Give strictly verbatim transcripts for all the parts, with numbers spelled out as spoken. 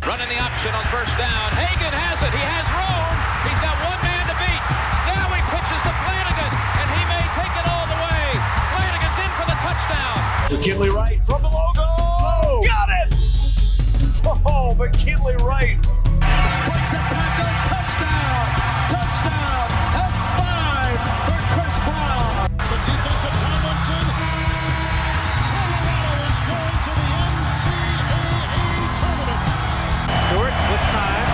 Running the option on first down. Hagan has it. He has room. He's got one man to beat. Now he pitches to Flanagan, and he may take it all the way. Flanagan's in for the touchdown. McKinley Wright from the logo. Oh, got it! Oh, McKinley Wright. Breaks a tackle. Touchdown. Touchdown. That's five for Chris Brown. The defense of Tomlinson. Colorado is going to the N C double A tournament. Stewart with time.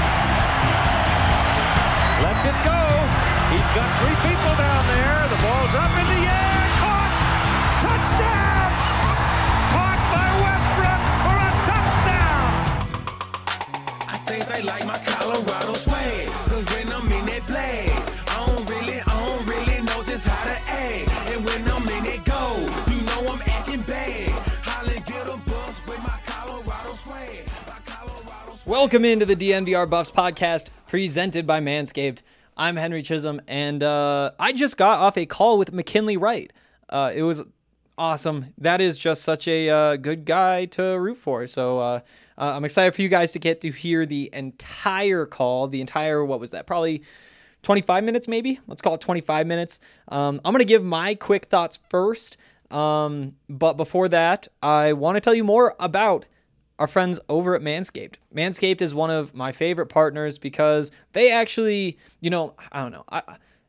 Lets it go. He's got three people down there. The ball's up in the air. Caught. Touchdown. Caught by Westbrook for a touchdown. I think they like my Colorado swag. Cause when I'm in that play, I don't really, I don't really know just how to act. And when I'm in it go, you know I'm acting bad. Holland get a bus with my Colorado swag. My Colorado swag. Welcome into the D N V R Buffs podcast presented by Manscaped. I'm Henry Chisholm, and uh, I just got off a call with McKinley Wright. Uh, it was awesome. That is just such a uh, good guy to root for. So uh, uh, I'm excited for you guys to get to hear the entire call, the entire, what was that, probably twenty-five minutes maybe? Let's call it twenty-five minutes. Um, I'm going to give my quick thoughts first, um, but before that, I want to tell you more about our friends over at Manscaped. Manscaped is one of my favorite partners because they actually, you know, I don't know. I,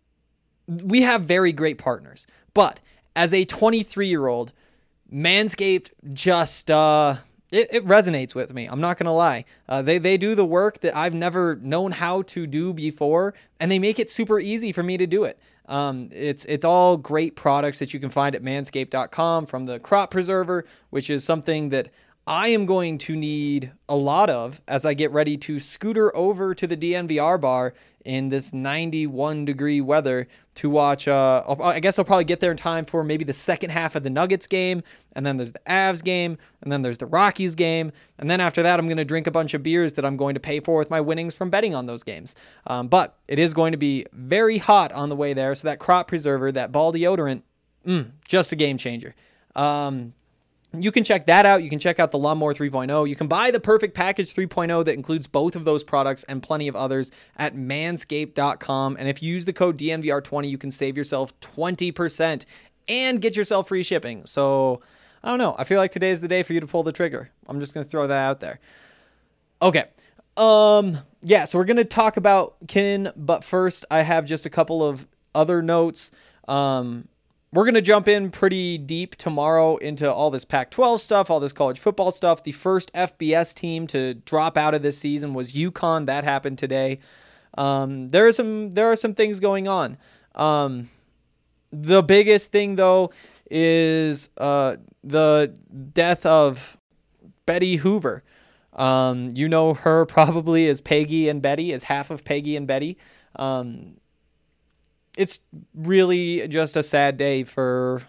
we have very great partners, but as a twenty-three-year-old, Manscaped just, uh, it, it resonates with me. I'm not going to lie. Uh, they, they do the work that I've never known how to do before, and they make it super easy for me to do it. Um, it's it's all great products that you can find at manscaped dot com, from the crop preserver, which is something that I am going to need a lot of as I get ready to scooter over to the D N V R bar in this ninety-one degree weather to watch. Uh, I guess I'll probably get there in time for maybe the second half of the Nuggets game, and then there's the Avs game, and then there's the Rockies game, and then after that I'm going to drink a bunch of beers that I'm going to pay for with my winnings from betting on those games. Um, but it is going to be very hot on the way there, so that crop preserver, that ball deodorant, mm, just a game changer. Um, You can check that out. You can check out the Lawnmower three point oh. You can buy the Perfect Package three point oh that includes both of those products and plenty of others at manscaped dot com. And if you use the code D N V R twenty, you can save yourself twenty percent and get yourself free shipping. So, I don't know. I feel like today is the day for you to pull the trigger. I'm just going to throw that out there. Okay. Um. Yeah, so we're going to talk about Kin, but first I have just a couple of other notes. Um... We're going to jump in pretty deep tomorrow into all this Pac twelve stuff, all this college football stuff. The first F B S team to drop out of this season was UConn. That happened today. Um, there are some there are some things going on. Um, the biggest thing, though, is uh, the death of Betty Hoover. Um, you know her probably as Peggy and Betty, as half of Peggy and Betty. Um It's really just a sad day for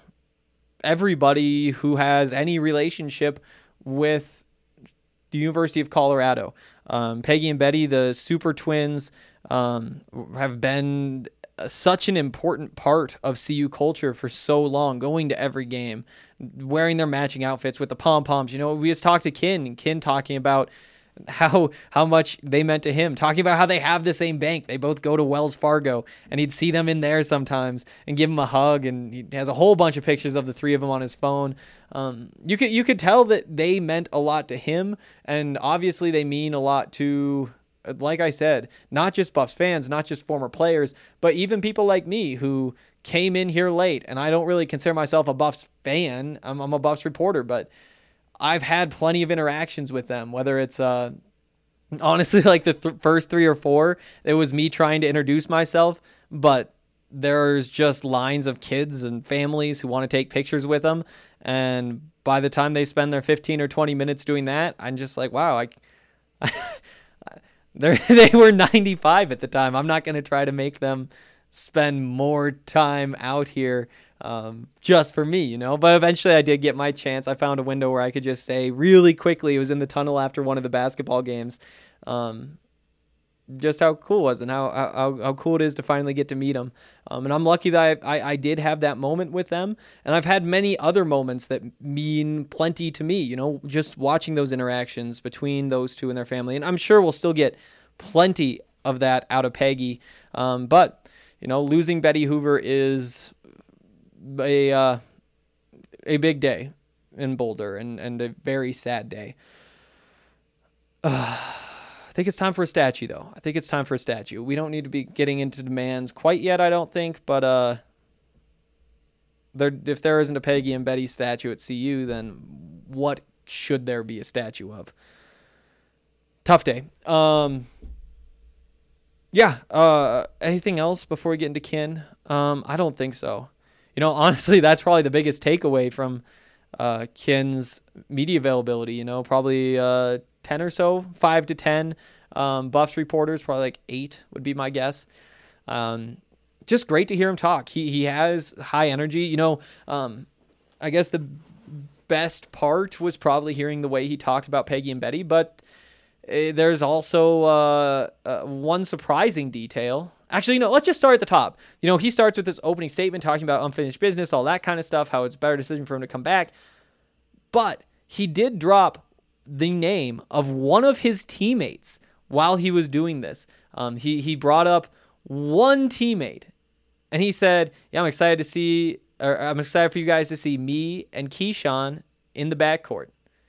everybody who has any relationship with the University of Colorado. Um, Peggy and Betty, the super twins, um, have been such an important part of C U culture for so long, going to every game, wearing their matching outfits with the pom-poms. You know, we just talked to Kin, and Kin talking about how how much they meant to him, talking about how they have the same bank. They both go to Wells Fargo, and he'd see them in there sometimes and give him a hug, and he has a whole bunch of pictures of the three of them on his phone. Um, you could you could tell that they meant a lot to him, and obviously they mean a lot to, like I said, not just Buffs fans, not just former players, but even people like me who came in here late, and I don't really consider myself a Buffs fan. I'm, I'm a Buffs reporter, but I've had plenty of interactions with them, whether it's uh, honestly like the th- first three or four, it was me trying to introduce myself, but there's just lines of kids and families who want to take pictures with them. And by the time they spend their fifteen or twenty minutes doing that, I'm just like, wow, I, they were ninety-five at the time. I'm not going to try to make them spend more time out here um, just for me, you know, but eventually I did get my chance. I found a window where I could just say really quickly, it was in the tunnel after one of the basketball games. Um, just how cool it was and how how, how cool it is to finally get to meet him. Um, and I'm lucky that I, I, I did have that moment with them. And I've had many other moments that mean plenty to me, you know, just watching those interactions between those two and their family. And I'm sure we'll still get plenty of that out of Peggy. Um, but, you know, losing Betty Hoover is a uh, a big day in Boulder and, and a very sad day. Uh, I think it's time for a statue, though. I think it's time for a statue. We don't need to be getting into demands quite yet, I don't think. But uh, there, if there isn't a Peggy and Betty statue at C U, then what should there be a statue of? Tough day. Um, yeah. Uh, anything else before we get into Kin? Um, I don't think so. You know, honestly, that's probably the biggest takeaway from uh, Kin's media availability. You know, probably uh, ten or so, five to ten. Um, Buffs reporters, probably like eight would be my guess. Um, just great to hear him talk. He he has high energy. You know, um, I guess the best part was probably hearing the way he talked about Peggy and Betty, but uh, there's also uh, uh, one surprising detail. Actually, you know, let's just start at the top. You know, he starts with this opening statement talking about unfinished business, all that kind of stuff, how it's a better decision for him to come back. But he did drop the name of one of his teammates while he was doing this. Um, he he brought up one teammate, and he said, "Yeah, I'm excited to see, or I'm excited for you guys to see me and Keyshawn in the backcourt."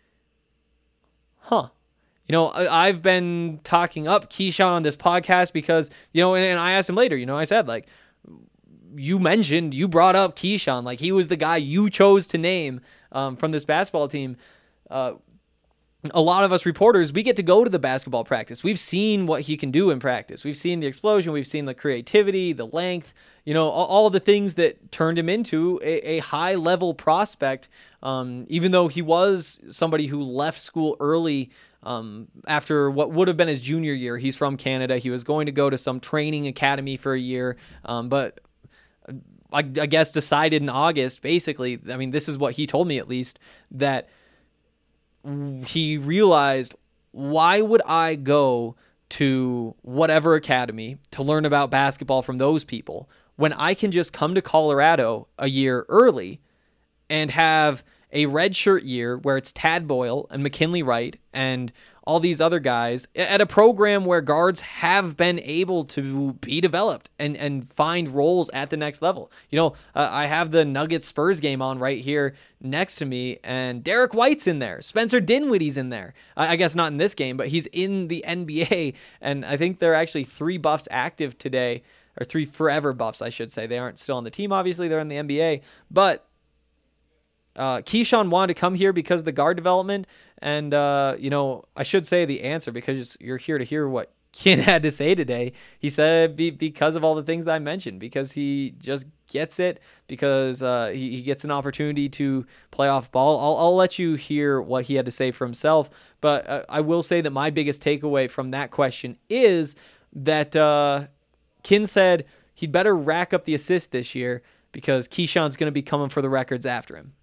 Huh. You know, I've been talking up Keyshawn on this podcast because, you know, and, and I asked him later, you know, I said, like, you mentioned, you brought up Keyshawn, like he was the guy you chose to name um, from this basketball team. Uh, a lot of us reporters, we get to go to the basketball practice. We've seen what he can do in practice. We've seen the explosion. We've seen the creativity, the length, you know, all, all the things that turned him into a, a high-level prospect, um, even though he was somebody who left school early Um, after what would have been his junior year. He's from Canada. He was going to go to some training academy for a year, um, but I, I guess decided in August, basically, I mean, this is what he told me at least, that he realized, why would I go to whatever academy to learn about basketball from those people when I can just come to Colorado a year early and have a redshirt year where it's Tad Boyle and McKinley Wright and all these other guys at a program where guards have been able to be developed and, and find roles at the next level. You know, uh, I have the Nuggets Spurs game on right here next to me, and Derek White's in there. Spencer Dinwiddie's in there. I, I guess not in this game, but he's in the N B A, and I think there are actually three Buffs active today, or three forever Buffs, I should say. They aren't still on the team, obviously. They're in the N B A, but Uh, Keyshawn wanted to come here because of the guard development, and, uh, you know, I should say the answer because you're here to hear what Kin had to say today. He said be, because of all the things that I mentioned, because he just gets it, because uh, he, he gets an opportunity to play off ball. I'll, I'll let you hear what he had to say for himself, but uh, I will say that my biggest takeaway from that question is that uh, Kin said he'd better rack up the assists this year because Keyshawn's going to be coming for the records after him.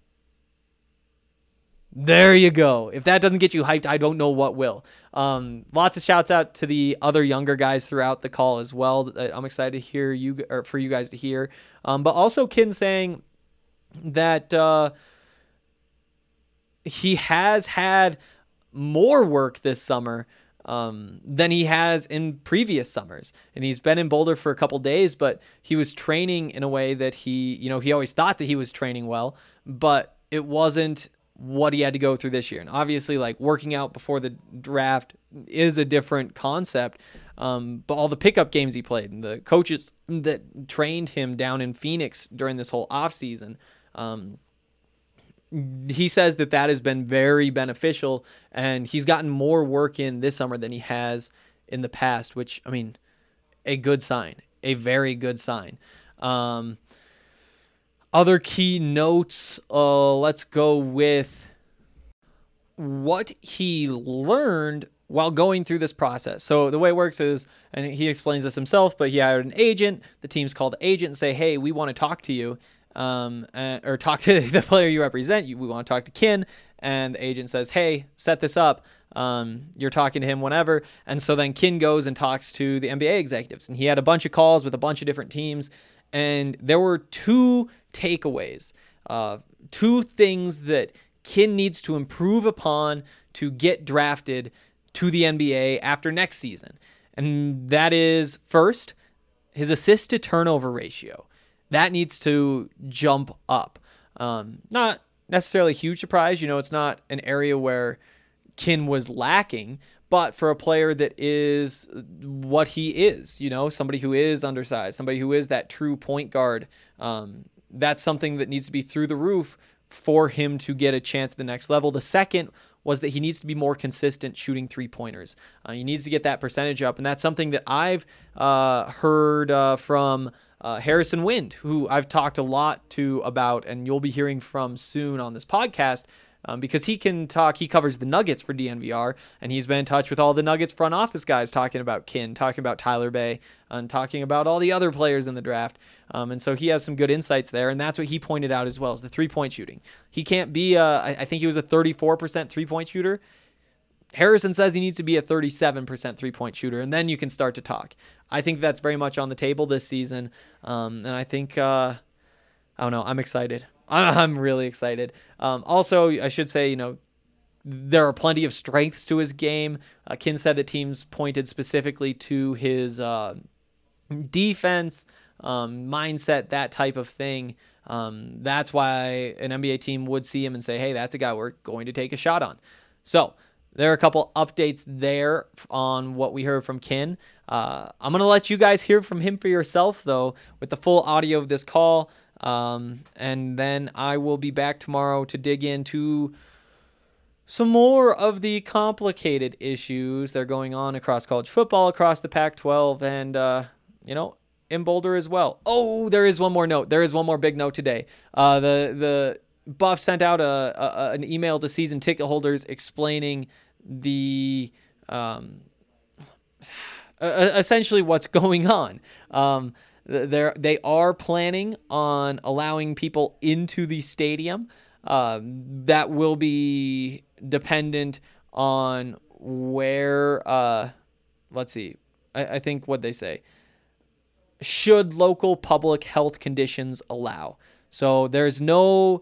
There you go. If that doesn't get you hyped, I don't know what will. Um, lots of shouts out to the other younger guys throughout the call as well. That I'm excited to hear you, or for you guys to hear. Um, but also Kin saying that uh, he has had more work this summer um, than he has in previous summers. And he's been in Boulder for a couple days, but he was training in a way that he, you know, he always thought that he was training well, but it wasn't what he had to go through this year. And obviously, like, working out before the draft is a different concept. Um, but all the pickup games he played and the coaches that trained him down in Phoenix during this whole offseason, um, he says that that has been very beneficial, and he's gotten more work in this summer than he has in the past, which, I mean, a good sign, a very good sign. Um, Other key notes, uh, let's go with what he learned while going through this process. So the way it works is, and he explains this himself, but he hired an agent. The team's called the agent and say, hey, we want to talk to you, um, uh, or talk to the player you represent. We want to talk to Kin. And the agent says, hey, set this up. Um, you're talking to him whenever. And so then Kin goes and talks to the N B A executives. And he had a bunch of calls with a bunch of different teams. And there were two takeaways, uh, two things that Kin needs to improve upon to get drafted to the N B A after next season. And that is, first, his assist to turnover ratio. That needs to jump up. Um, not necessarily a huge surprise. You know, it's not an area where Kin was lacking, but for a player that is what he is, you know, somebody who is undersized, somebody who is that true point guard, um, that's something that needs to be through the roof for him to get a chance at the next level. The second was that he needs to be more consistent shooting three-pointers. Uh, he needs to get that percentage up, and that's something that I've uh, heard uh, from uh, Harrison Wind, who I've talked a lot to about, and you'll be hearing from soon on this podcast, um, because he can talk, he covers the Nuggets for D N V R, and he's been in touch with all the Nuggets front office guys talking about Kin, talking about Tyler Bay, and talking about all the other players in the draft. Um, and so he has some good insights there, and that's what he pointed out as well, is the three-point shooting. He can't be, uh, I, I think he was a thirty-four percent three-point shooter. Harrison says he needs to be a thirty-seven percent three-point shooter, and then you can start to talk. I think that's very much on the table this season, um, and I think, uh, I don't know, I'm excited. I'm really excited. Um, also, I should say, you know, there are plenty of strengths to his game. Uh, Kin said that teams pointed specifically to his uh, defense, um, mindset, that type of thing. Um, that's why an N B A team would see him and say, hey, that's a guy we're going to take a shot on. So there are a couple updates there on what we heard from Kin. Uh, I'm going to let you guys hear from him for yourself, though, with the full audio of this call. Um, and then I will be back tomorrow to dig into some more of the complicated issues that are going on across college football, across the Pac twelve, and, uh, you know, in Boulder as well. Oh, there is one more note. There is one more big note today. Uh, the the Buff sent out a, a an email to season ticket holders explaining the um, essentially what's going on. Um, they they are planning on allowing people into the stadium. Uh, that will be dependent on where. Uh, let's see. I, I think what they say. Should local public health conditions allow. So there's no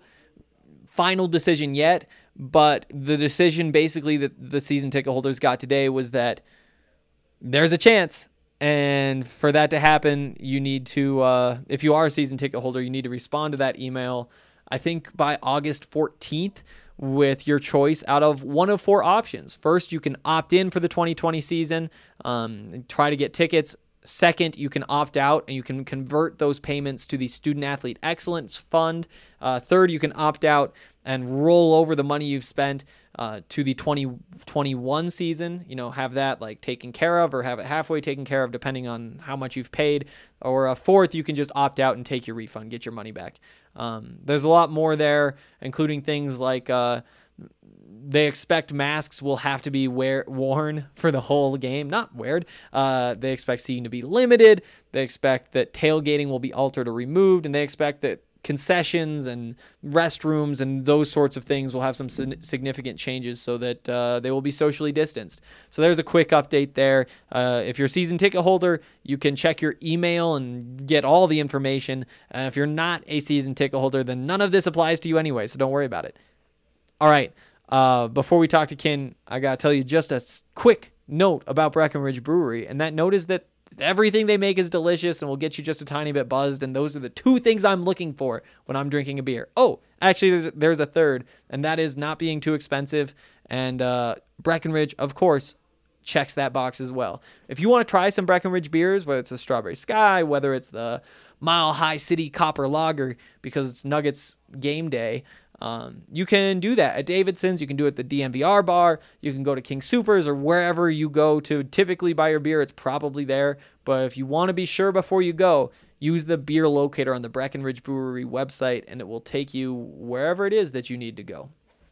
final decision yet, but the decision basically that the season ticket holders got today was that there's a chance, and for that to happen, you need to, uh, if you are a season ticket holder, you need to respond to that email, I think by August fourteenth, with your choice out of one of four options. First, you can opt in for the twenty twenty season, um, try to get tickets. Second, you can opt out and you can convert those payments to the Student Athlete Excellence Fund. Uh, third, you can opt out and roll over the money you've spent uh, to the twenty twenty-one season. You know, have that like taken care of or have it halfway taken care of depending on how much you've paid. Or uh, fourth, you can just opt out and take your refund, get your money back. Um, there's a lot more there, including things like uh, they expect masks will have to be wear, worn for the whole game. Not weird. Uh, they expect seating to be limited. They expect that tailgating will be altered or removed. And they expect that concessions and restrooms and those sorts of things will have some significant changes so that uh, they will be socially distanced. So there's a quick update there. Uh, if you're a season ticket holder, you can check your email and get all the information. Uh, if you're not a season ticket holder, then none of this applies to you anyway, so don't worry about it. All right. Uh, before we talk to Kin, I got to tell you just a quick note about Breckenridge Brewery. And that note is that everything they make is delicious and will get you just a tiny bit buzzed. And those are the two things I'm looking for when I'm drinking a beer. Oh, actually, there's, there's a third, and that is not being too expensive. And uh, Breckenridge, of course, checks that box as well. If you want to try some Breckenridge beers, whether it's the Strawberry Sky, whether it's the Mile High City Copper Lager, because it's Nuggets game day, Um, you can do that at Davidson's. You can do it at the D N V R bar. You can go to King Soopers or wherever you go to typically buy your beer. It's probably there. But if you want to be sure before you go, use the beer locator on the Breckenridge Brewery website, and it will take you wherever it is that you need to go.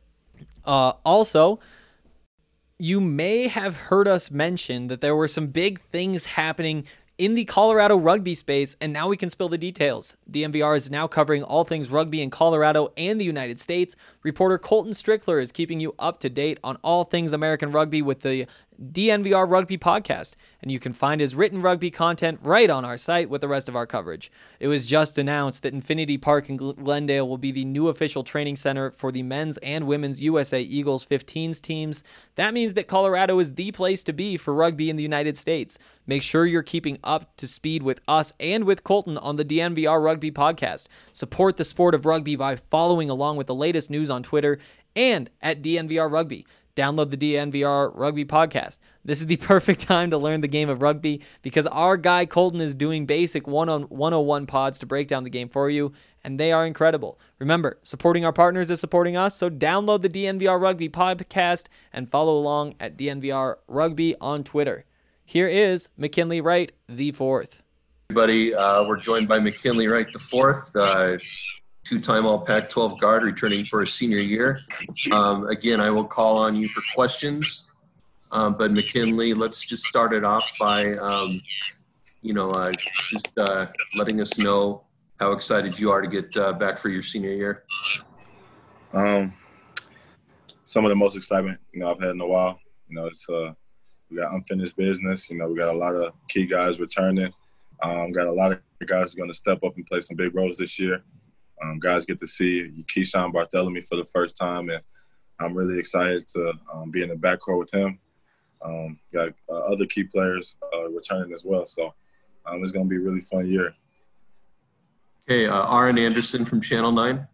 Uh, also, you may have heard us mention that there were some big things happening in the Colorado rugby space, and now we can spill the details. D N V R is now covering all things rugby in Colorado and the United States. Reporter Colton Strickler is keeping you up to date on all things American rugby with the D N V R Rugby Podcast, and you can find his written rugby content right on our site with the rest of our coverage. It was just announced that Infinity Park in Glendale will be the new official training center for the men's and women's U S A Eagles fifteens teams. That means that Colorado is the place to be for rugby in the United States. Make sure you're keeping up to speed with us and with Colton on the D N V R Rugby Podcast. Support the sport of rugby by following along with the latest news on Twitter and at D N V R Rugby. Download the D N V R Rugby Podcast. This is the perfect time to learn the game of rugby because our guy Colton is doing basic one oh one pods to break down the game for you, and they are incredible. Remember, supporting our partners is supporting us, so download the D N V R Rugby Podcast and follow along at D N V R Rugby on Twitter. Here is McKinley Wright, the fourth. Everybody, uh, we're joined by McKinley Wright, the fourth. Uh, two-time All Pac twelve guard returning for his senior year. Um, again, I will call on you for questions. Um, but McKinley, let's just start it off by, um, you know, uh, just uh, letting us know how excited you are to get uh, back for your senior year. Um, some of the most excitement, you know, I've had in a while. You know, it's uh, we got unfinished business. You know, we got a lot of key guys returning. Um, got a lot of guys who are going to step up and play some big roles this year. Um, guys get to see Keyshawn Bartholomew for the first time, and I'm really excited to um, be in the backcourt with him. Um, got uh, other key players uh, returning as well, so um, it's going to be a really fun year. Okay, uh, Aaron Anderson from Channel nine.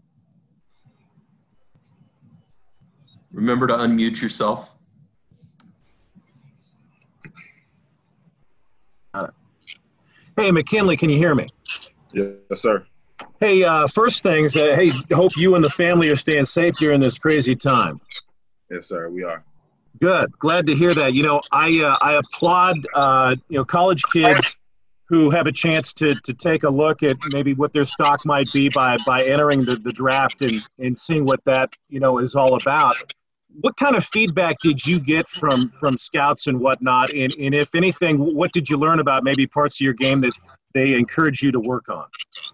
Remember to unmute yourself. Hey, McKinley, can you hear me? Yes, sir. Hey, uh, first things, uh, hey, hope you and the family are staying safe during this crazy time. Yes, sir, we are. Good. Glad to hear that. You know, I uh, I applaud, uh, you know, college kids who have a chance to to take a look at maybe what their stock might be by by entering the, the draft and, and seeing what that, you know, is all about. What kind of feedback did you get from, from scouts and whatnot? And, and if anything, what did you learn about maybe parts of your game that they encourage you to work on?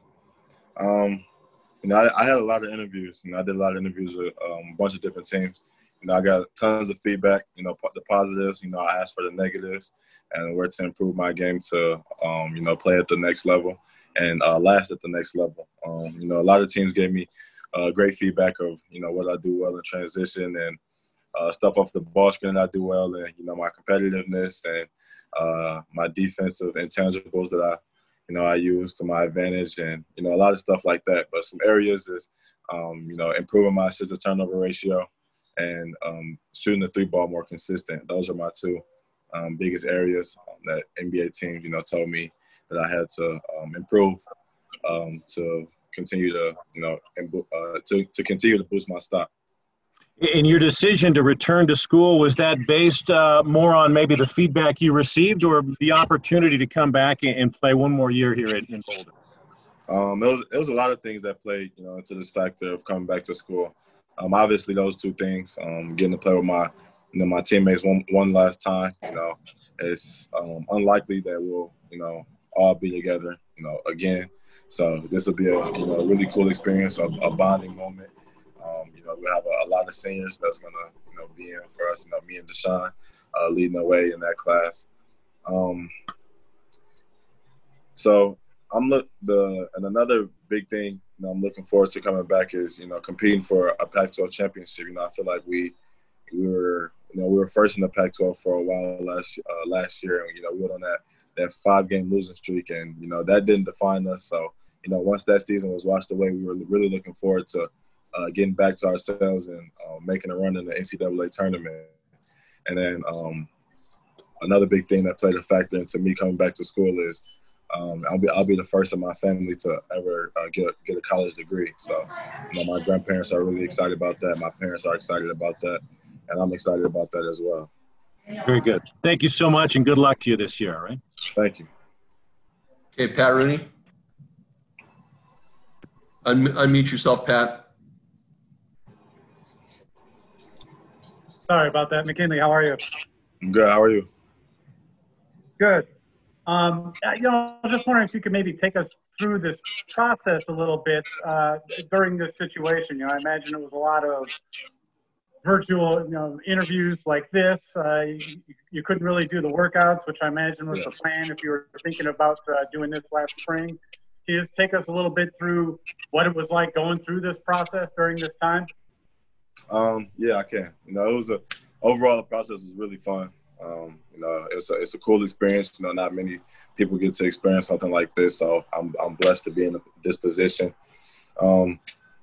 Um, you know, I, I had a lot of interviews. You know, I did a lot of interviews with um, a bunch of different teams. You know, I got tons of feedback. You know, the positives. You know, I asked for the negatives and where to improve my game to, um, you know, play at the next level and uh, last at the next level. Um, you know, a lot of teams gave me uh, great feedback of, you know, what I do well in transition and uh, stuff off the ball screen I do well, and you know, my competitiveness and uh, my defensive intangibles that I. You know, I use to my advantage and, you know, a lot of stuff like that. But some areas is, um, you know, improving my assist to turnover ratio and um, shooting the three ball more consistent. Those are my two um, biggest areas that N B A teams, you know, told me that I had to um, improve um, to continue to, you know, uh, to, to continue to boost my stock. In your decision to return to school, was that based uh, more on maybe the feedback you received or the opportunity to come back and play one more year here in, in Boulder? Um, it was it was a lot of things that played, you know, into this factor of coming back to school. Um, obviously, those two things, um, getting to play with my, you know, my teammates one one last time. You know, it's um, unlikely that we'll, you know, all be together, you know, again. So this will be a, you know, a really cool experience, a, a bonding moment. Um, you know, we have a, a lot of seniors that's going to, you know, be in for us. You know, me and Deshaun uh, leading the way in that class. Um, so I'm look the and another big thing, you know, I'm looking forward to coming back is, you know, competing for a Pac twelve championship. You know, I feel like we we were, you know, we were first in the Pac twelve for a while last uh, last year, and you know, we went on that that five game losing streak, and you know, that didn't define us. So, you know, once that season was washed away, we were really looking forward to Uh, getting back to ourselves and uh, making a run in the N C double A tournament. And then um, another big thing that played a factor into me coming back to school is um, I'll be I'll be the first in my family to ever uh, get a, get a college degree. So, you know, my grandparents are really excited about that. My parents are excited about that, and I'm excited about that as well. Very good. Thank you so much, and good luck to you this year. All right. Thank you. Okay, Pat Rooney. Un- unmute yourself, Pat. Sorry about that. McKinley, how are you? I'm good. How are you? Good. Um, you know, I was just wondering if you could maybe take us through this process a little bit uh, during this situation. You know, I imagine it was a lot of virtual, you know, interviews like this. Uh, you, you couldn't really do the workouts, which I imagine was the plan if you were thinking about uh, doing this last spring. Can you just take us a little bit through what it was like going through this process during this time? Um, yeah, I can. You know, it was a overall the process was really fun. Um, you know, it's a it's a cool experience. You know, not many people get to experience something like this, so I'm I'm blessed to be in this position. Um,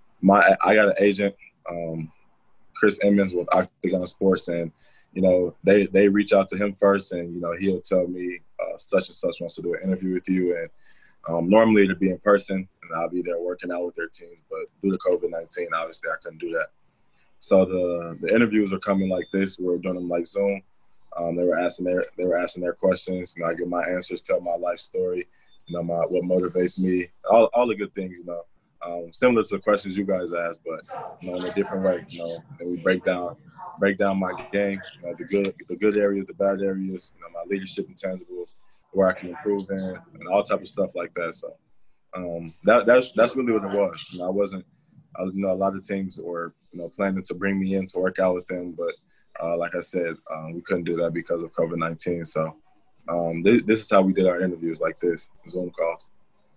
my I got an agent, um, Chris Emmons with Octagon Sports, and you know they they reach out to him first, and you know he'll tell me uh, such and such wants to do an interview with you, and um, normally it'd be in person, and I'll be there working out with their teams, but due to COVID nineteen, obviously I couldn't do that. So the the interviews are coming like this. We're doing them like Zoom. Um, they were asking their they were asking their questions, and I give my answers, tell my life story, you know, my what motivates me, all all the good things, you know, um, similar to the questions you guys asked, but you know, in a different way, you know. And we break down break down my game, you know, the good the good areas, the bad areas, you know, my leadership intangibles, where I can improve in, and all type of stuff like that. So um, that that's that's really what it was. You know, I wasn't, I, you know, a lot of teams were you know planning to bring me in to work out with them, but Uh, like I said, um, we couldn't do that because of COVID nineteen. So um, this, this is how we did our interviews, like this, Zoom calls.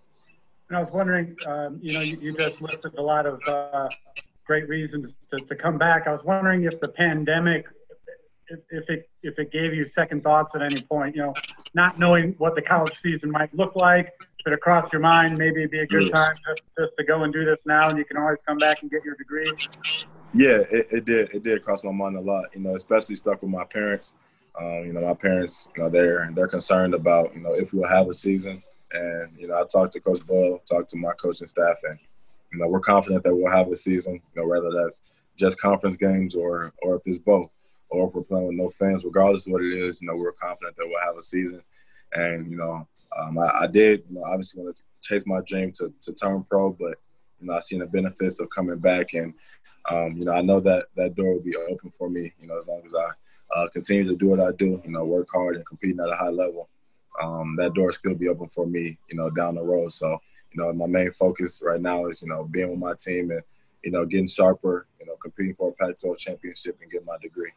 And I was wondering, um, you know, you, you just listed a lot of uh, great reasons to, to come back. I was wondering if the pandemic, if, if it if it gave you second thoughts at any point, you know, not knowing what the college season might look like, but across your mind, maybe it'd be a good time just, just to go and do this now, and you can always come back and get your degree. Yeah, it, it did. It did cross my mind a lot, you know, especially stuck with my parents. Um, you know, my parents, you know, they're they're concerned about, you know, if we'll have a season. And, you know, I talked to Coach Boyle, talked to my coaching staff, and, you know, we're confident that we'll have a season, you know, whether that's just conference games or or if it's both, or if we're playing with no fans, regardless of what it is, you know, we're confident that we'll have a season. And, you know, um, I, I did, you know, obviously want to chase my dream to, to turn pro, but, you know, I've seen the benefits of coming back, and Um, you know, I know that that door will be open for me, you know, as long as I uh, continue to do what I do, you know, work hard and competing at a high level. Um, that door will still be open for me, you know, down the road. So, you know, my main focus right now is, you know, being with my team and, you know, getting sharper, you know, competing for a Pac twelve championship and getting my degree.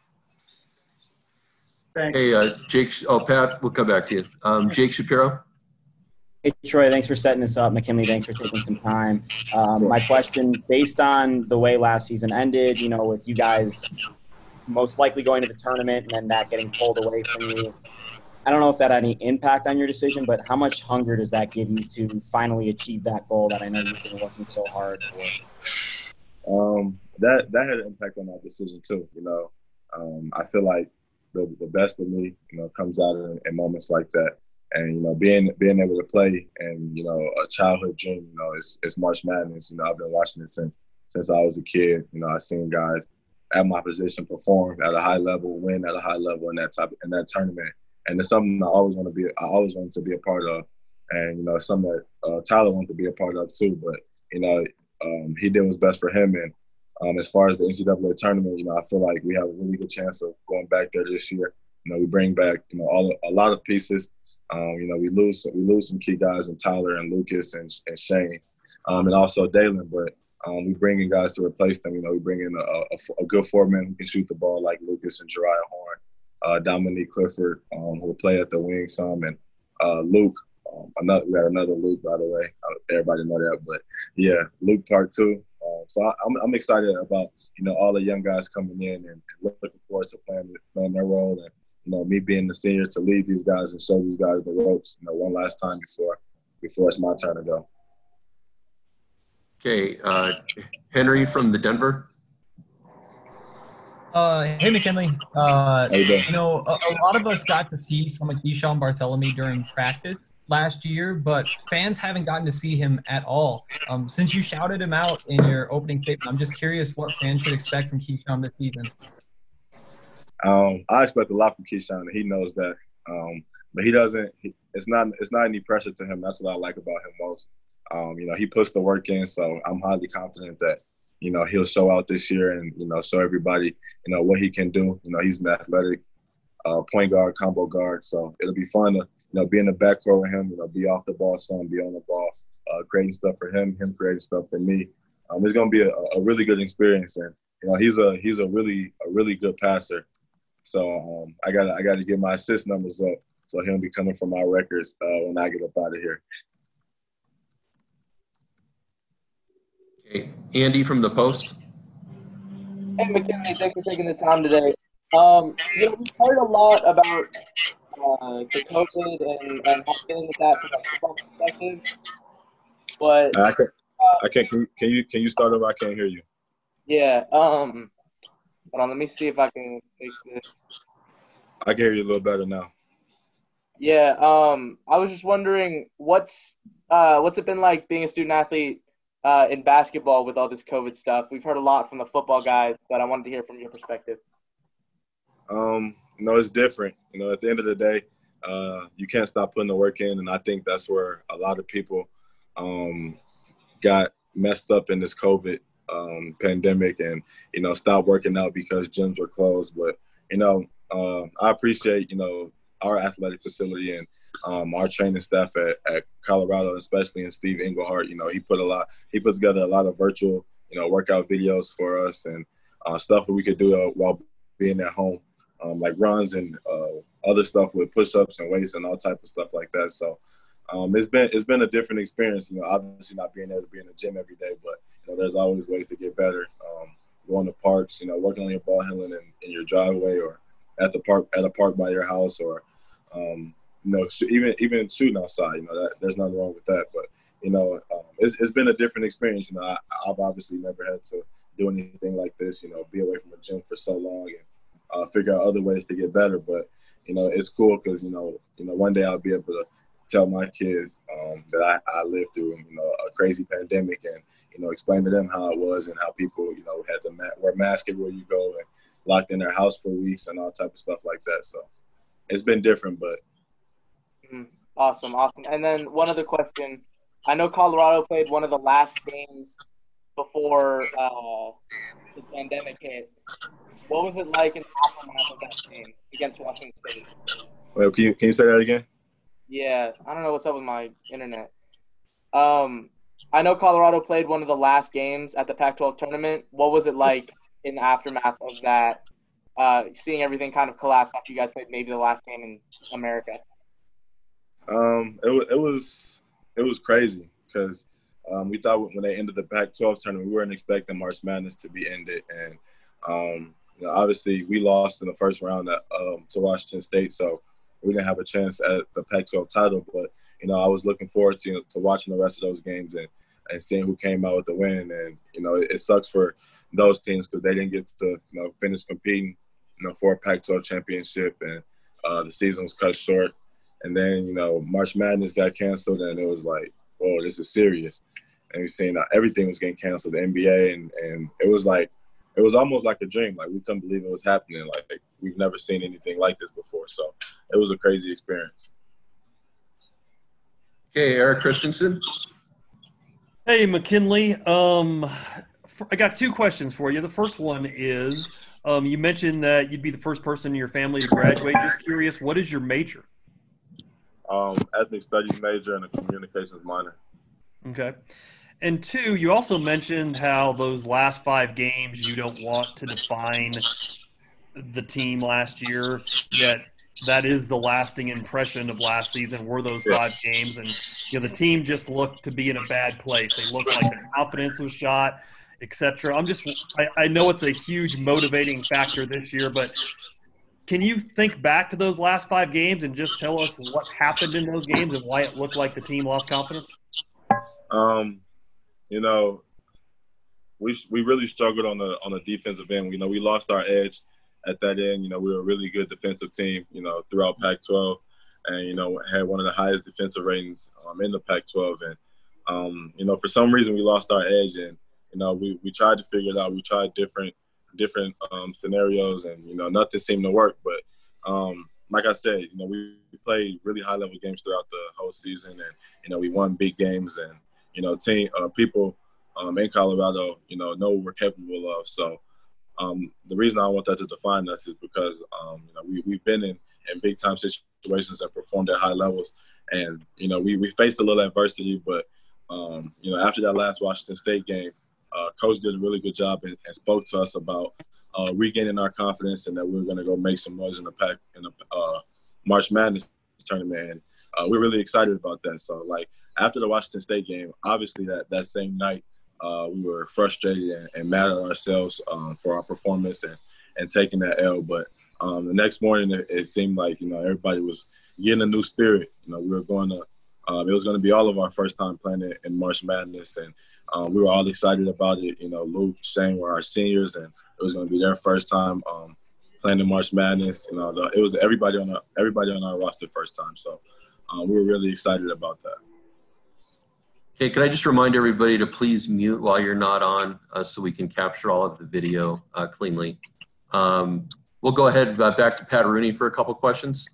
Thanks. Hey, uh, Jake. Oh, Pat, we'll come back to you. Um, Jake Shapiro. Hey, Troy, thanks for setting this up. McKinley, thanks for taking some time. Um, my question, based on the way last season ended, you know, with you guys most likely going to the tournament and then that getting pulled away from you, I don't know if that had any impact on your decision, but how much hunger does that give you to finally achieve that goal that I know you've been working so hard for? Um, that that had an impact on my decision too. You know, um, I feel like the the best of me, you know, comes out in, in moments like that. And, you know, being being able to play and, you know, a childhood dream, you know, it's, it's March Madness. You know, I've been watching it since since I was a kid. You know, I've seen guys at my position perform at a high level, win at a high level in that type in that tournament. And it's something I always want to be I always wanted to be a part of. And, you know, it's something that uh, Tyler wanted to be a part of too. But, you know, um, he did what's best for him. And um, as far as the N C double A tournament, you know, I feel like we have a really good chance of going back there this year. You know, we bring back, you know, all a lot of pieces. Um, you know, we lose we lose some key guys in Tyler and Lucas and, and Shane, um, and also Dalen. But um, we bring in guys to replace them. You know, we bring in a, a, a good four-man who can shoot the ball like Lucas and Jariah Horn, uh, Dominique Clifford, um, who will play at the wing some, and uh, Luke. Um, another, we got another Luke, by the way. Everybody know that. But, yeah, Luke part two. Um, so I, I'm, I'm excited about, you know, all the young guys coming in and, and looking forward to playing, playing their role. And, you know, me being the senior to lead these guys and show these guys the ropes, you know, one last time before before it's my turn to go. Okay, uh, Henry from the Denver. Uh, hey, McKinley. Uh, How you doing? You know, a, a lot of us got to see some of Keyshawn Bartholomew during practice last year, but fans haven't gotten to see him at all. Um, since you shouted him out in your opening statement, I'm just curious what fans should expect from Keyshawn this season. Um, I expect a lot from Keyshawn, and he knows that. Um, but he doesn't. He, it's not. It's not any pressure to him. That's what I like about him most. Um, you know, he puts the work in, so I'm highly confident that, you know, he'll show out this year and, you know, show everybody, you know, what he can do. You know, he's an athletic uh, point guard, combo guard. So it'll be fun to, you know, be in the backcourt with him, you know, be off the ball some, be on the ball, uh, creating stuff for him, him creating stuff for me. Um, it's going to be a, a really good experience. And, you know, he's a he's a really a really good passer. So um, I got I got to get my assist numbers up. So he'll be coming for my records uh, when I get up out of here. Okay. Andy from the Post. Hey, McKinley, thanks for taking the time today. Um, you know, we've heard a lot about uh, the COVID and, and how dealing with that from a football perspective. But I can't. Uh, I can't. Can you, can you can you start over? I can't hear you. Yeah. Um. Hold on. Let me see if I can fix this. I can hear you a little better now. Yeah. Um. I was just wondering what's uh what's it been like being a student athlete uh in basketball with all this COVID stuff. We've heard a lot from the football guys, but I wanted to hear from your perspective. Um. You know, it's different. You know, at the end of the day, uh, you can't stop putting the work in, and I think that's where a lot of people um got messed up in this COVID um, pandemic and, you know, stopped working out because gyms were closed. But, you know, uh, I appreciate, you know, our athletic facility and um, our training staff at, at Colorado, especially in Steve Englehart. You know, he put a lot, he put together a lot of virtual, you know, workout videos for us and uh, stuff that we could do uh, while being at home, um, like runs and uh, other stuff with push-ups and weights and all type of stuff like that. So, Um, it's been it's been a different experience, you know. Obviously, not being able to be in the gym every day, but you know, there's always ways to get better. Um, going to parks, you know, working on your ball handling in, in your driveway or at the park at a park by your house, or um, you know, sh- even even shooting outside. You know, that, there's nothing wrong with that. But you know, um, it's it's been a different experience. You know, I, I've obviously never had to do anything like this. You know, be away from a gym for so long and uh, figure out other ways to get better. But you know, it's cool because you know, you know, one day I'll be able to tell my kids um, that I, I lived through, you know, a crazy pandemic and, you know, explain to them how it was and how people, you know, had to ma- wear masks everywhere you go and locked in their house for weeks and all type of stuff like that. So it's been different, but. Mm, awesome, awesome. And then one other question. I know Colorado played one of the last games before uh, the pandemic hit. What was it like in the aftermath of that game against Washington State? Well, can you, can you say that again? Yeah, I don't know what's up with my internet. Um, I know Colorado played one of the last games at the Pac twelve tournament. What was it like in the aftermath of that, uh, seeing everything kind of collapse after you guys played maybe the last game in America? Um, it was it was it was crazy because um, we thought when they ended the Pac twelve tournament, we weren't expecting March Madness to be ended, and um, you know, obviously we lost in the first round at, um, to Washington State, so we didn't have a chance at the Pac twelve title. But you know, I was looking forward to you know, to watching the rest of those games and, and seeing who came out with the win. And you know, it, it sucks for those teams because they didn't get to you know finish competing you know for a Pac twelve championship, and uh, the season was cut short. And then, you know, March Madness got canceled, and it was like, whoa, this is serious. And we've seen uh, everything was getting canceled, the N B A, and, and it was like, it was almost like a dream. Like, we couldn't believe it was happening. Like, we've never seen anything like this before. So it was a crazy experience. Okay, Eric Christensen. Hey, McKinley. Um, I got two questions for you. The first one is, um, you mentioned that you'd be the first person in your family to graduate. Just curious, what is your major? Um, ethnic studies major and a communications minor. Okay. And two, you also mentioned how those last five games you don't want to define the team last year, yet that is the lasting impression of last season were those five yeah. games. And, you know, the team just looked to be in a bad place. They looked like their confidence was shot, et cetera. I'm just I, – I know it's a huge motivating factor this year, but – can you think back to those last five games and just tell us what happened in those games and why it looked like the team lost confidence? Um, you know, we we really struggled on the on the defensive end. You know, we lost our edge at that end. You know, we were a really good defensive team, you know, throughout Pac twelve and, you know, had one of the highest defensive ratings um, in the Pac twelve. And, um, you know, for some reason we lost our edge. And, you know, we, we tried to figure it out. We tried different – different um, scenarios and, you know, nothing seemed to work. But um, like I said, you know, we played really high level games throughout the whole season and, you know, we won big games and, you know, team uh, people um, in Colorado, you know, know what we're capable of. So um, the reason I want that to define us is because um, you know, we, we've been in, in big time situations and performed at high levels. And, you know, we, we faced a little adversity, but, um, you know, after that last Washington State game, uh, Coach did a really good job and, and spoke to us about uh, regaining our confidence and that we were going to go make some noise in the pack in the uh, March Madness tournament. And uh, we're really excited about that. So, like, after the Washington State game, obviously that, that same night, uh, we were frustrated and, and mad at ourselves um, for our performance and, and taking that L. But um, the next morning, it, it seemed like, you know, everybody was getting a new spirit. You know, we were going to um, – it was going to be all of our first time playing it in March Madness, and um, we were all excited about it. You know, Luke, Shane were our seniors, and it was going to be their first time um, playing in March Madness. You know, the, it was the, everybody on our, everybody on our roster first time. So um, we were really excited about that. Okay, can I just remind everybody to please mute while you're not on uh, so we can capture all of the video uh, cleanly. Um, we'll go ahead uh, back to Pat Rooney for a couple questions.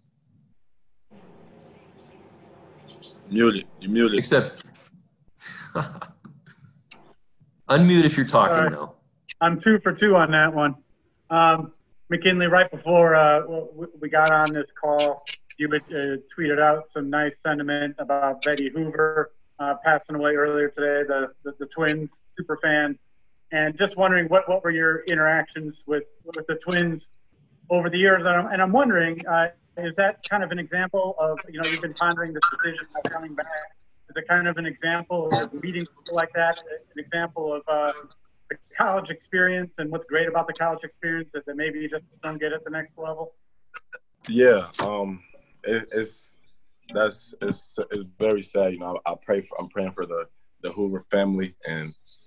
Muted. You muted. Except unmute if you're talking Sorry. now. I'm two for two on that one. Um, McKinley, right before uh, we got on this call, you had uh, tweeted out some nice sentiment about Betty Hoover uh, passing away earlier today, the, the, the Twins super fan. And just wondering what, what were your interactions with, with the Twins over the years? And I'm, and I'm wondering, uh, is that kind of an example of, you know, you've been pondering this decision of coming back. Is it kind of an example of meeting people like that, an example of uh, the college experience and what's great about the college experience that, that maybe you just don't get at the next level? Yeah, um, it, it's that's it's it's very sad. You know, I, I pray for I'm praying for the the Hoover family, and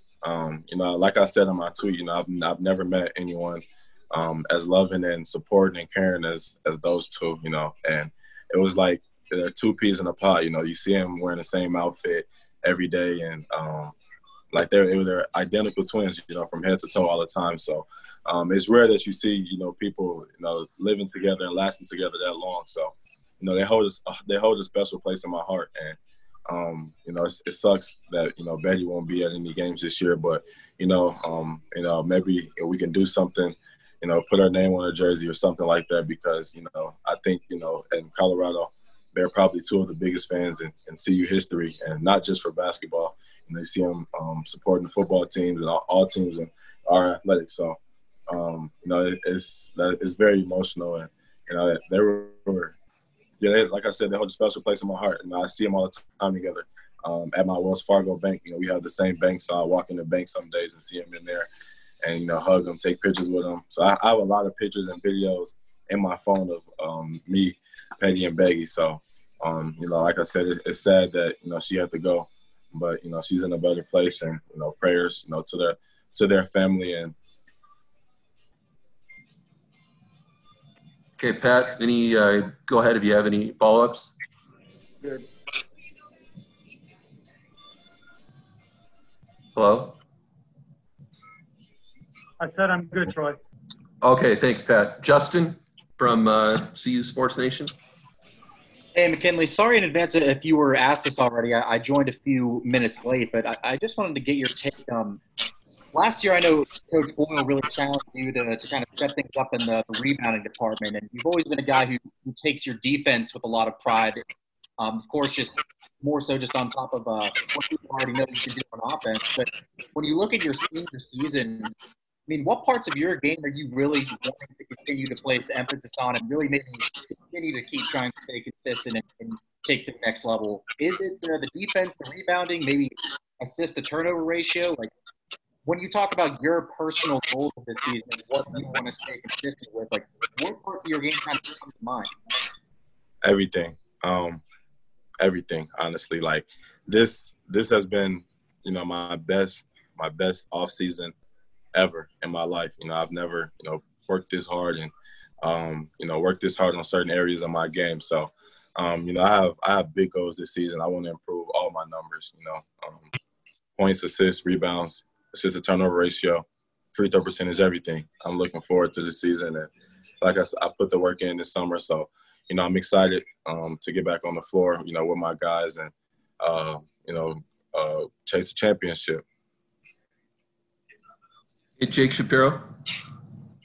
um, you know, like I said in my tweet, you know, I've I've never met anyone um, as loving and supporting and caring as as those two. You know, and it was like they're two peas in a pod. You know, you see them wearing the same outfit every day, and um, like they're it was they're identical twins. You know, from head to toe all the time. So um, it's rare that you see you know people you know living together and lasting together that long. So you know they hold a, they hold a special place in my heart, and um, you know it's, it sucks that you know Betty won't be at any games this year. But you know um, you know maybe we can do something. You know, put her name on a jersey or something like that, because you know I think you know in Colorado, they're probably two of the biggest fans in, in C U history, and not just for basketball. And they see them um, supporting the football teams and all, all teams in our athletics. So, um, you know, it, it's that it's very emotional, and you know they were, yeah, they, like I said, they hold a special place in my heart, and I see them all the time together. Um, at my Wells Fargo bank, you know, we have the same bank, so I walk in the bank some days and see them in there, and you know, hug them, take pictures with them. So I, I have a lot of pictures and videos in my phone of um, me, Petty, and Beggy. So, um, you know, like I said, it, it's sad that you know she had to go, but you know she's in a better place, and you know, prayers, you know, to their to their family. And okay, Pat, any uh, go ahead if you have any follow-ups. Good. Hello. I said I'm good, Troy. Okay, thanks, Pat. Justin from uh, C U Sports Nation. Hey, McKinley, sorry in advance if you were asked this already. I, I joined a few minutes late, but I, I just wanted to get your take. Um, last year, I know Coach Boyle really challenged you to, to kind of set things up in the, the rebounding department, and you've always been a guy who, who takes your defense with a lot of pride. Um, of course, just more so just on top of uh, what people already know you can do on offense. But when you look at your senior season, I mean, what parts of your game are you really wanting to continue to place emphasis on and really maybe continue to keep trying to stay consistent and, and take to the next level? Is it uh, the defense, the rebounding, maybe assist to turnover ratio? Like, when you talk about your personal goals of this season and what you want to stay consistent with, like, what parts of your game kind of come to mind? Everything. Um, everything, honestly. Like, this this has been, you know, my best, my best off season ever in my life. You know, I've never, you know, worked this hard and, um, you know, worked this hard on certain areas of my game. So, um, you know, I have I have big goals this season. I want to improve all my numbers, you know, um, points, assists, rebounds, assist to turnover ratio, free throw percentage, everything. I'm looking forward to this season. And like I said, I put the work in this summer. So, you know, I'm excited um, to get back on the floor, you know, with my guys and, uh, you know, uh, chase a championship. Hey, Jake Shapiro.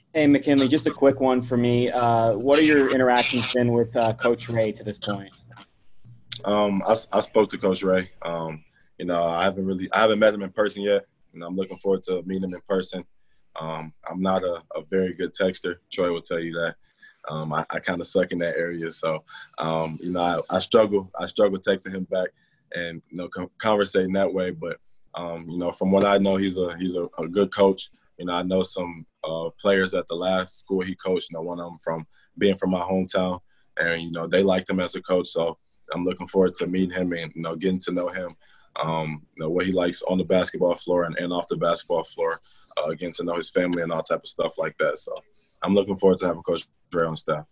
Hey, McKinley, just a quick one for me. Uh, what are your interactions been with uh, Coach Ray to this point? Um, I, I spoke to Coach Ray. Um, you know, I haven't really, I haven't met him in person yet, and I'm looking forward to meeting him in person. Um, I'm not a, a very good texter. Troy will tell you that. Um, I, I kind of suck in that area, so um, you know, I, I struggle. I struggle texting him back and you know, com- conversating that way. But um, you know, from what I know, he's a he's a, a good coach. You know, I know some uh, players at the last school he coached. You know, one of them from being from my hometown, and you know, they liked him as a coach. So I'm looking forward to meeting him and you know, getting to know him. Um, you know, what he likes on the basketball floor and, and off the basketball floor, uh, getting to know his family and all type of stuff like that. So I'm looking forward to having Coach Ray on staff.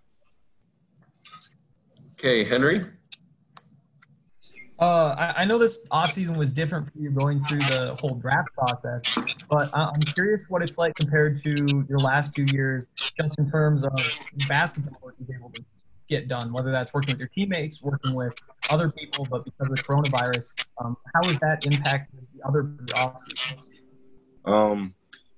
Okay, Henry. Uh, I, I know this offseason was different for you going through the whole draft process, but I- I'm curious what it's like compared to your last few years, just in terms of basketball work you've been able to get done, whether that's working with your teammates, working with other people, but because of coronavirus, um, how has that impacted the other offseason? Um,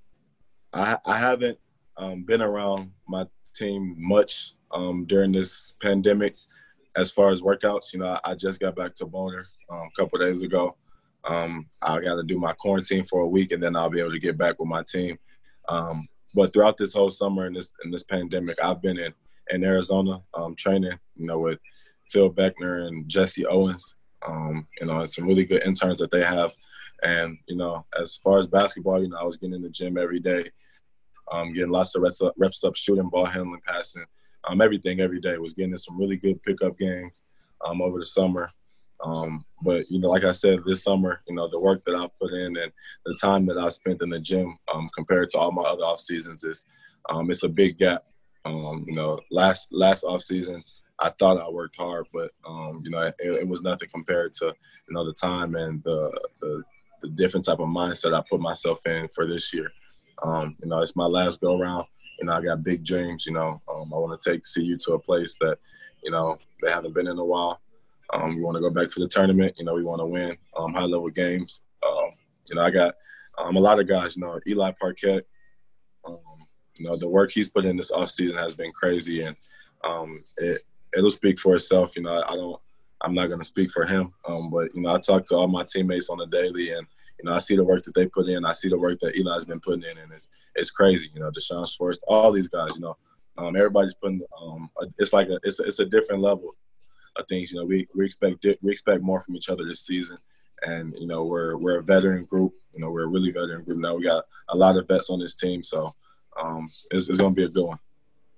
I, I haven't um, been around my team much um, during this pandemic. As far as workouts, you know, I, I just got back to Boulder um, a couple of days ago. Um, I got to do my quarantine for a week, and then I'll be able to get back with my team. Um, but throughout this whole summer and this in this pandemic, I've been in, in Arizona um, training, you know, with Phil Beckner and Jesse Owens, um, you know, and some really good interns that they have. And, you know, as far as basketball, you know, I was getting in the gym every day, um, getting lots of reps up, reps up, shooting, ball handling, passing. Um, everything every day. Was getting in some really good pickup games um, over the summer. Um, but, you know, like I said, this summer, you know, the work that I've put in and the time that I spent in the gym um, compared to all my other off seasons is um, it's a big gap. Um, you know, last last off season, I thought I worked hard, but, um, you know, it, it was nothing compared to, you know, the time and the, the, the different type of mindset I put myself in for this year. Um, you know, it's my last go around. You know, I got big dreams, you know. Um, I want to take C U to a place that, you know, they haven't been in a while. Um, we want to go back to the tournament. You know, we want to win um, high-level games. Um, you know, I got um, a lot of guys, you know, Eli Parquette. Um, you know, the work he's put in this offseason has been crazy, and um, it, it'll speak for itself. You know, I, I don't – I'm not going to speak for him. Um, but, you know, I talk to all my teammates on the daily, and, you know, I see the work that they put in. I see the work that Eli's been putting in, and it's it's crazy. You know, Deshaun Schwartz, all these guys. You know, um, everybody's putting. Um, it's like a it's a, it's a different level of things. You know, we we expect we expect more from each other this season, and you know, we're we're a veteran group. You know, we're a really veteran group now. We got a lot of vets on this team, so um, it's, it's going to be a good one.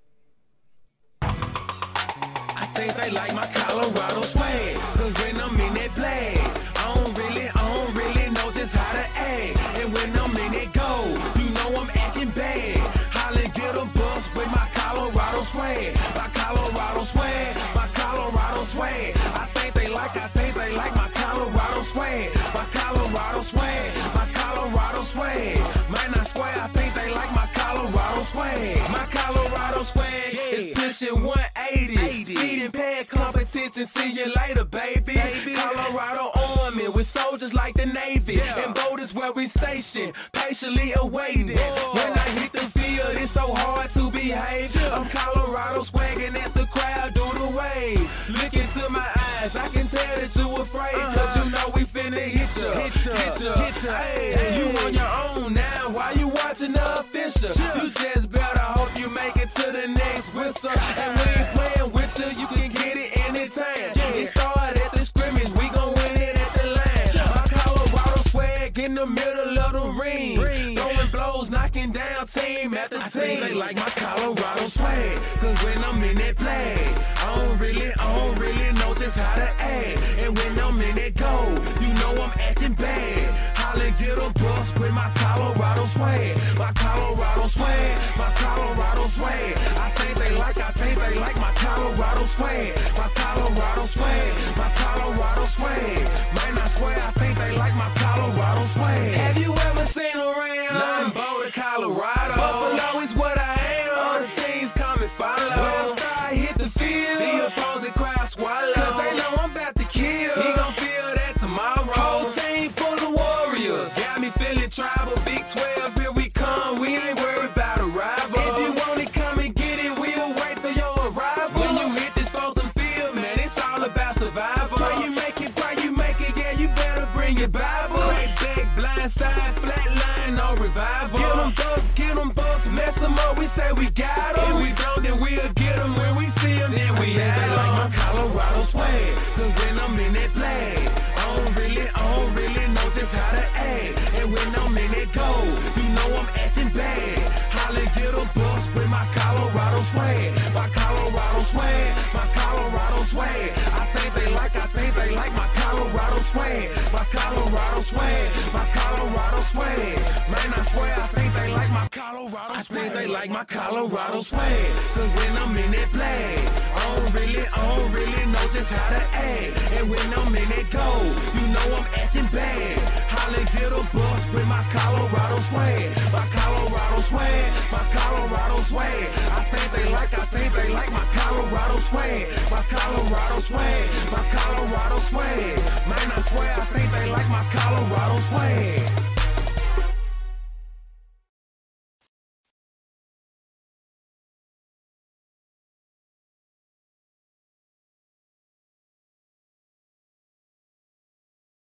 I think they like my Colorado swag, 'cause when I'm in that play, I don't really, I don't really know just how to act. And when I'm in that go, you know I'm acting bad. Holla, get a bus with my Colorado swag, my Colorado swag, my Colorado swag. I think they like, I think they like my Colorado swag, my Colorado swag, my Colorado swag. Man, I swear, I think they like my Colorado swag, my Colorado swag is pushing one eighty. Speeding past competition, see you later, baby. baby. Colorado Army with soldiers like the Navy. Yeah. And boat is where we station, patiently awaiting. Whoa. When I hit the field, it's so hard to behave. Yeah. I'm Colorado swagging as the crowd do the wave. Look into my eyes, I can tell that you afraid. Uh-huh. Cause you know we finna hit ya, hit ya, hit ya, hit ya. Hey, hey. You on your own now, why you watching the official? Yeah. You just better hope you make it to the next whistle. And we ain't playing with you, you can get it anytime. Yeah. It started at the scrimmage, we gon' win it at the line. Yeah. My Colorado swag in the middle of the ring. ring. Throwing blows, knocking down team after team. I think they like my Colorado swag, 'cause when I'm in that play, I don't really, I don't really know just how to act. And when I'm in that go, you know I'm acting bad. Holla, get a bus with my Colorado swag, my Colorado swag, my Colorado swag. I think they like, I think they like my Colorado swag, my Colorado swag, my Colorado swag. Man, I swear, I think they like my Colorado swag. Have you ever seen around? Nah, I'm Boulder, Colorado. Buffalo is what I am. All the teams come and follow. When I start hit the field, the opposing crowd swallow. 'Cause they know I'm about to kill. He gon' feel that tomorrow. Whole team full of warriors. Got me feeling tribal. Big twelve, here we come. We ain't worried about a rival. revival. Get them thugs, get them bucks, mess them up, we say we got them. If we don't, then we'll get them when we see them, then we have them. They like my Colorado swag, cause when I'm in that flag, I don't really, I don't really know just how to act. And when I'm in that gold, you know I'm acting bad. Holly get a bus with my Colorado swag, my Colorado swag, my Colorado swag. I think they like, I think they like my Colorado swag, my Colorado swag, my Colorado swag. Man, I swear I think they like my Colorado swag. I think they like my Colorado swag, cause when I'm in that flag, I don't really, I don't really know just how to act. And when I'm in that gold, you know I'm acting bad. Holly get a bus with my Colorado swag, my Colorado swag, my Colorado swag. I think they like, I think they like my Colorado swag, my Colorado swag, my Colorado swag. Man, I swear I think they like my Colorado swag.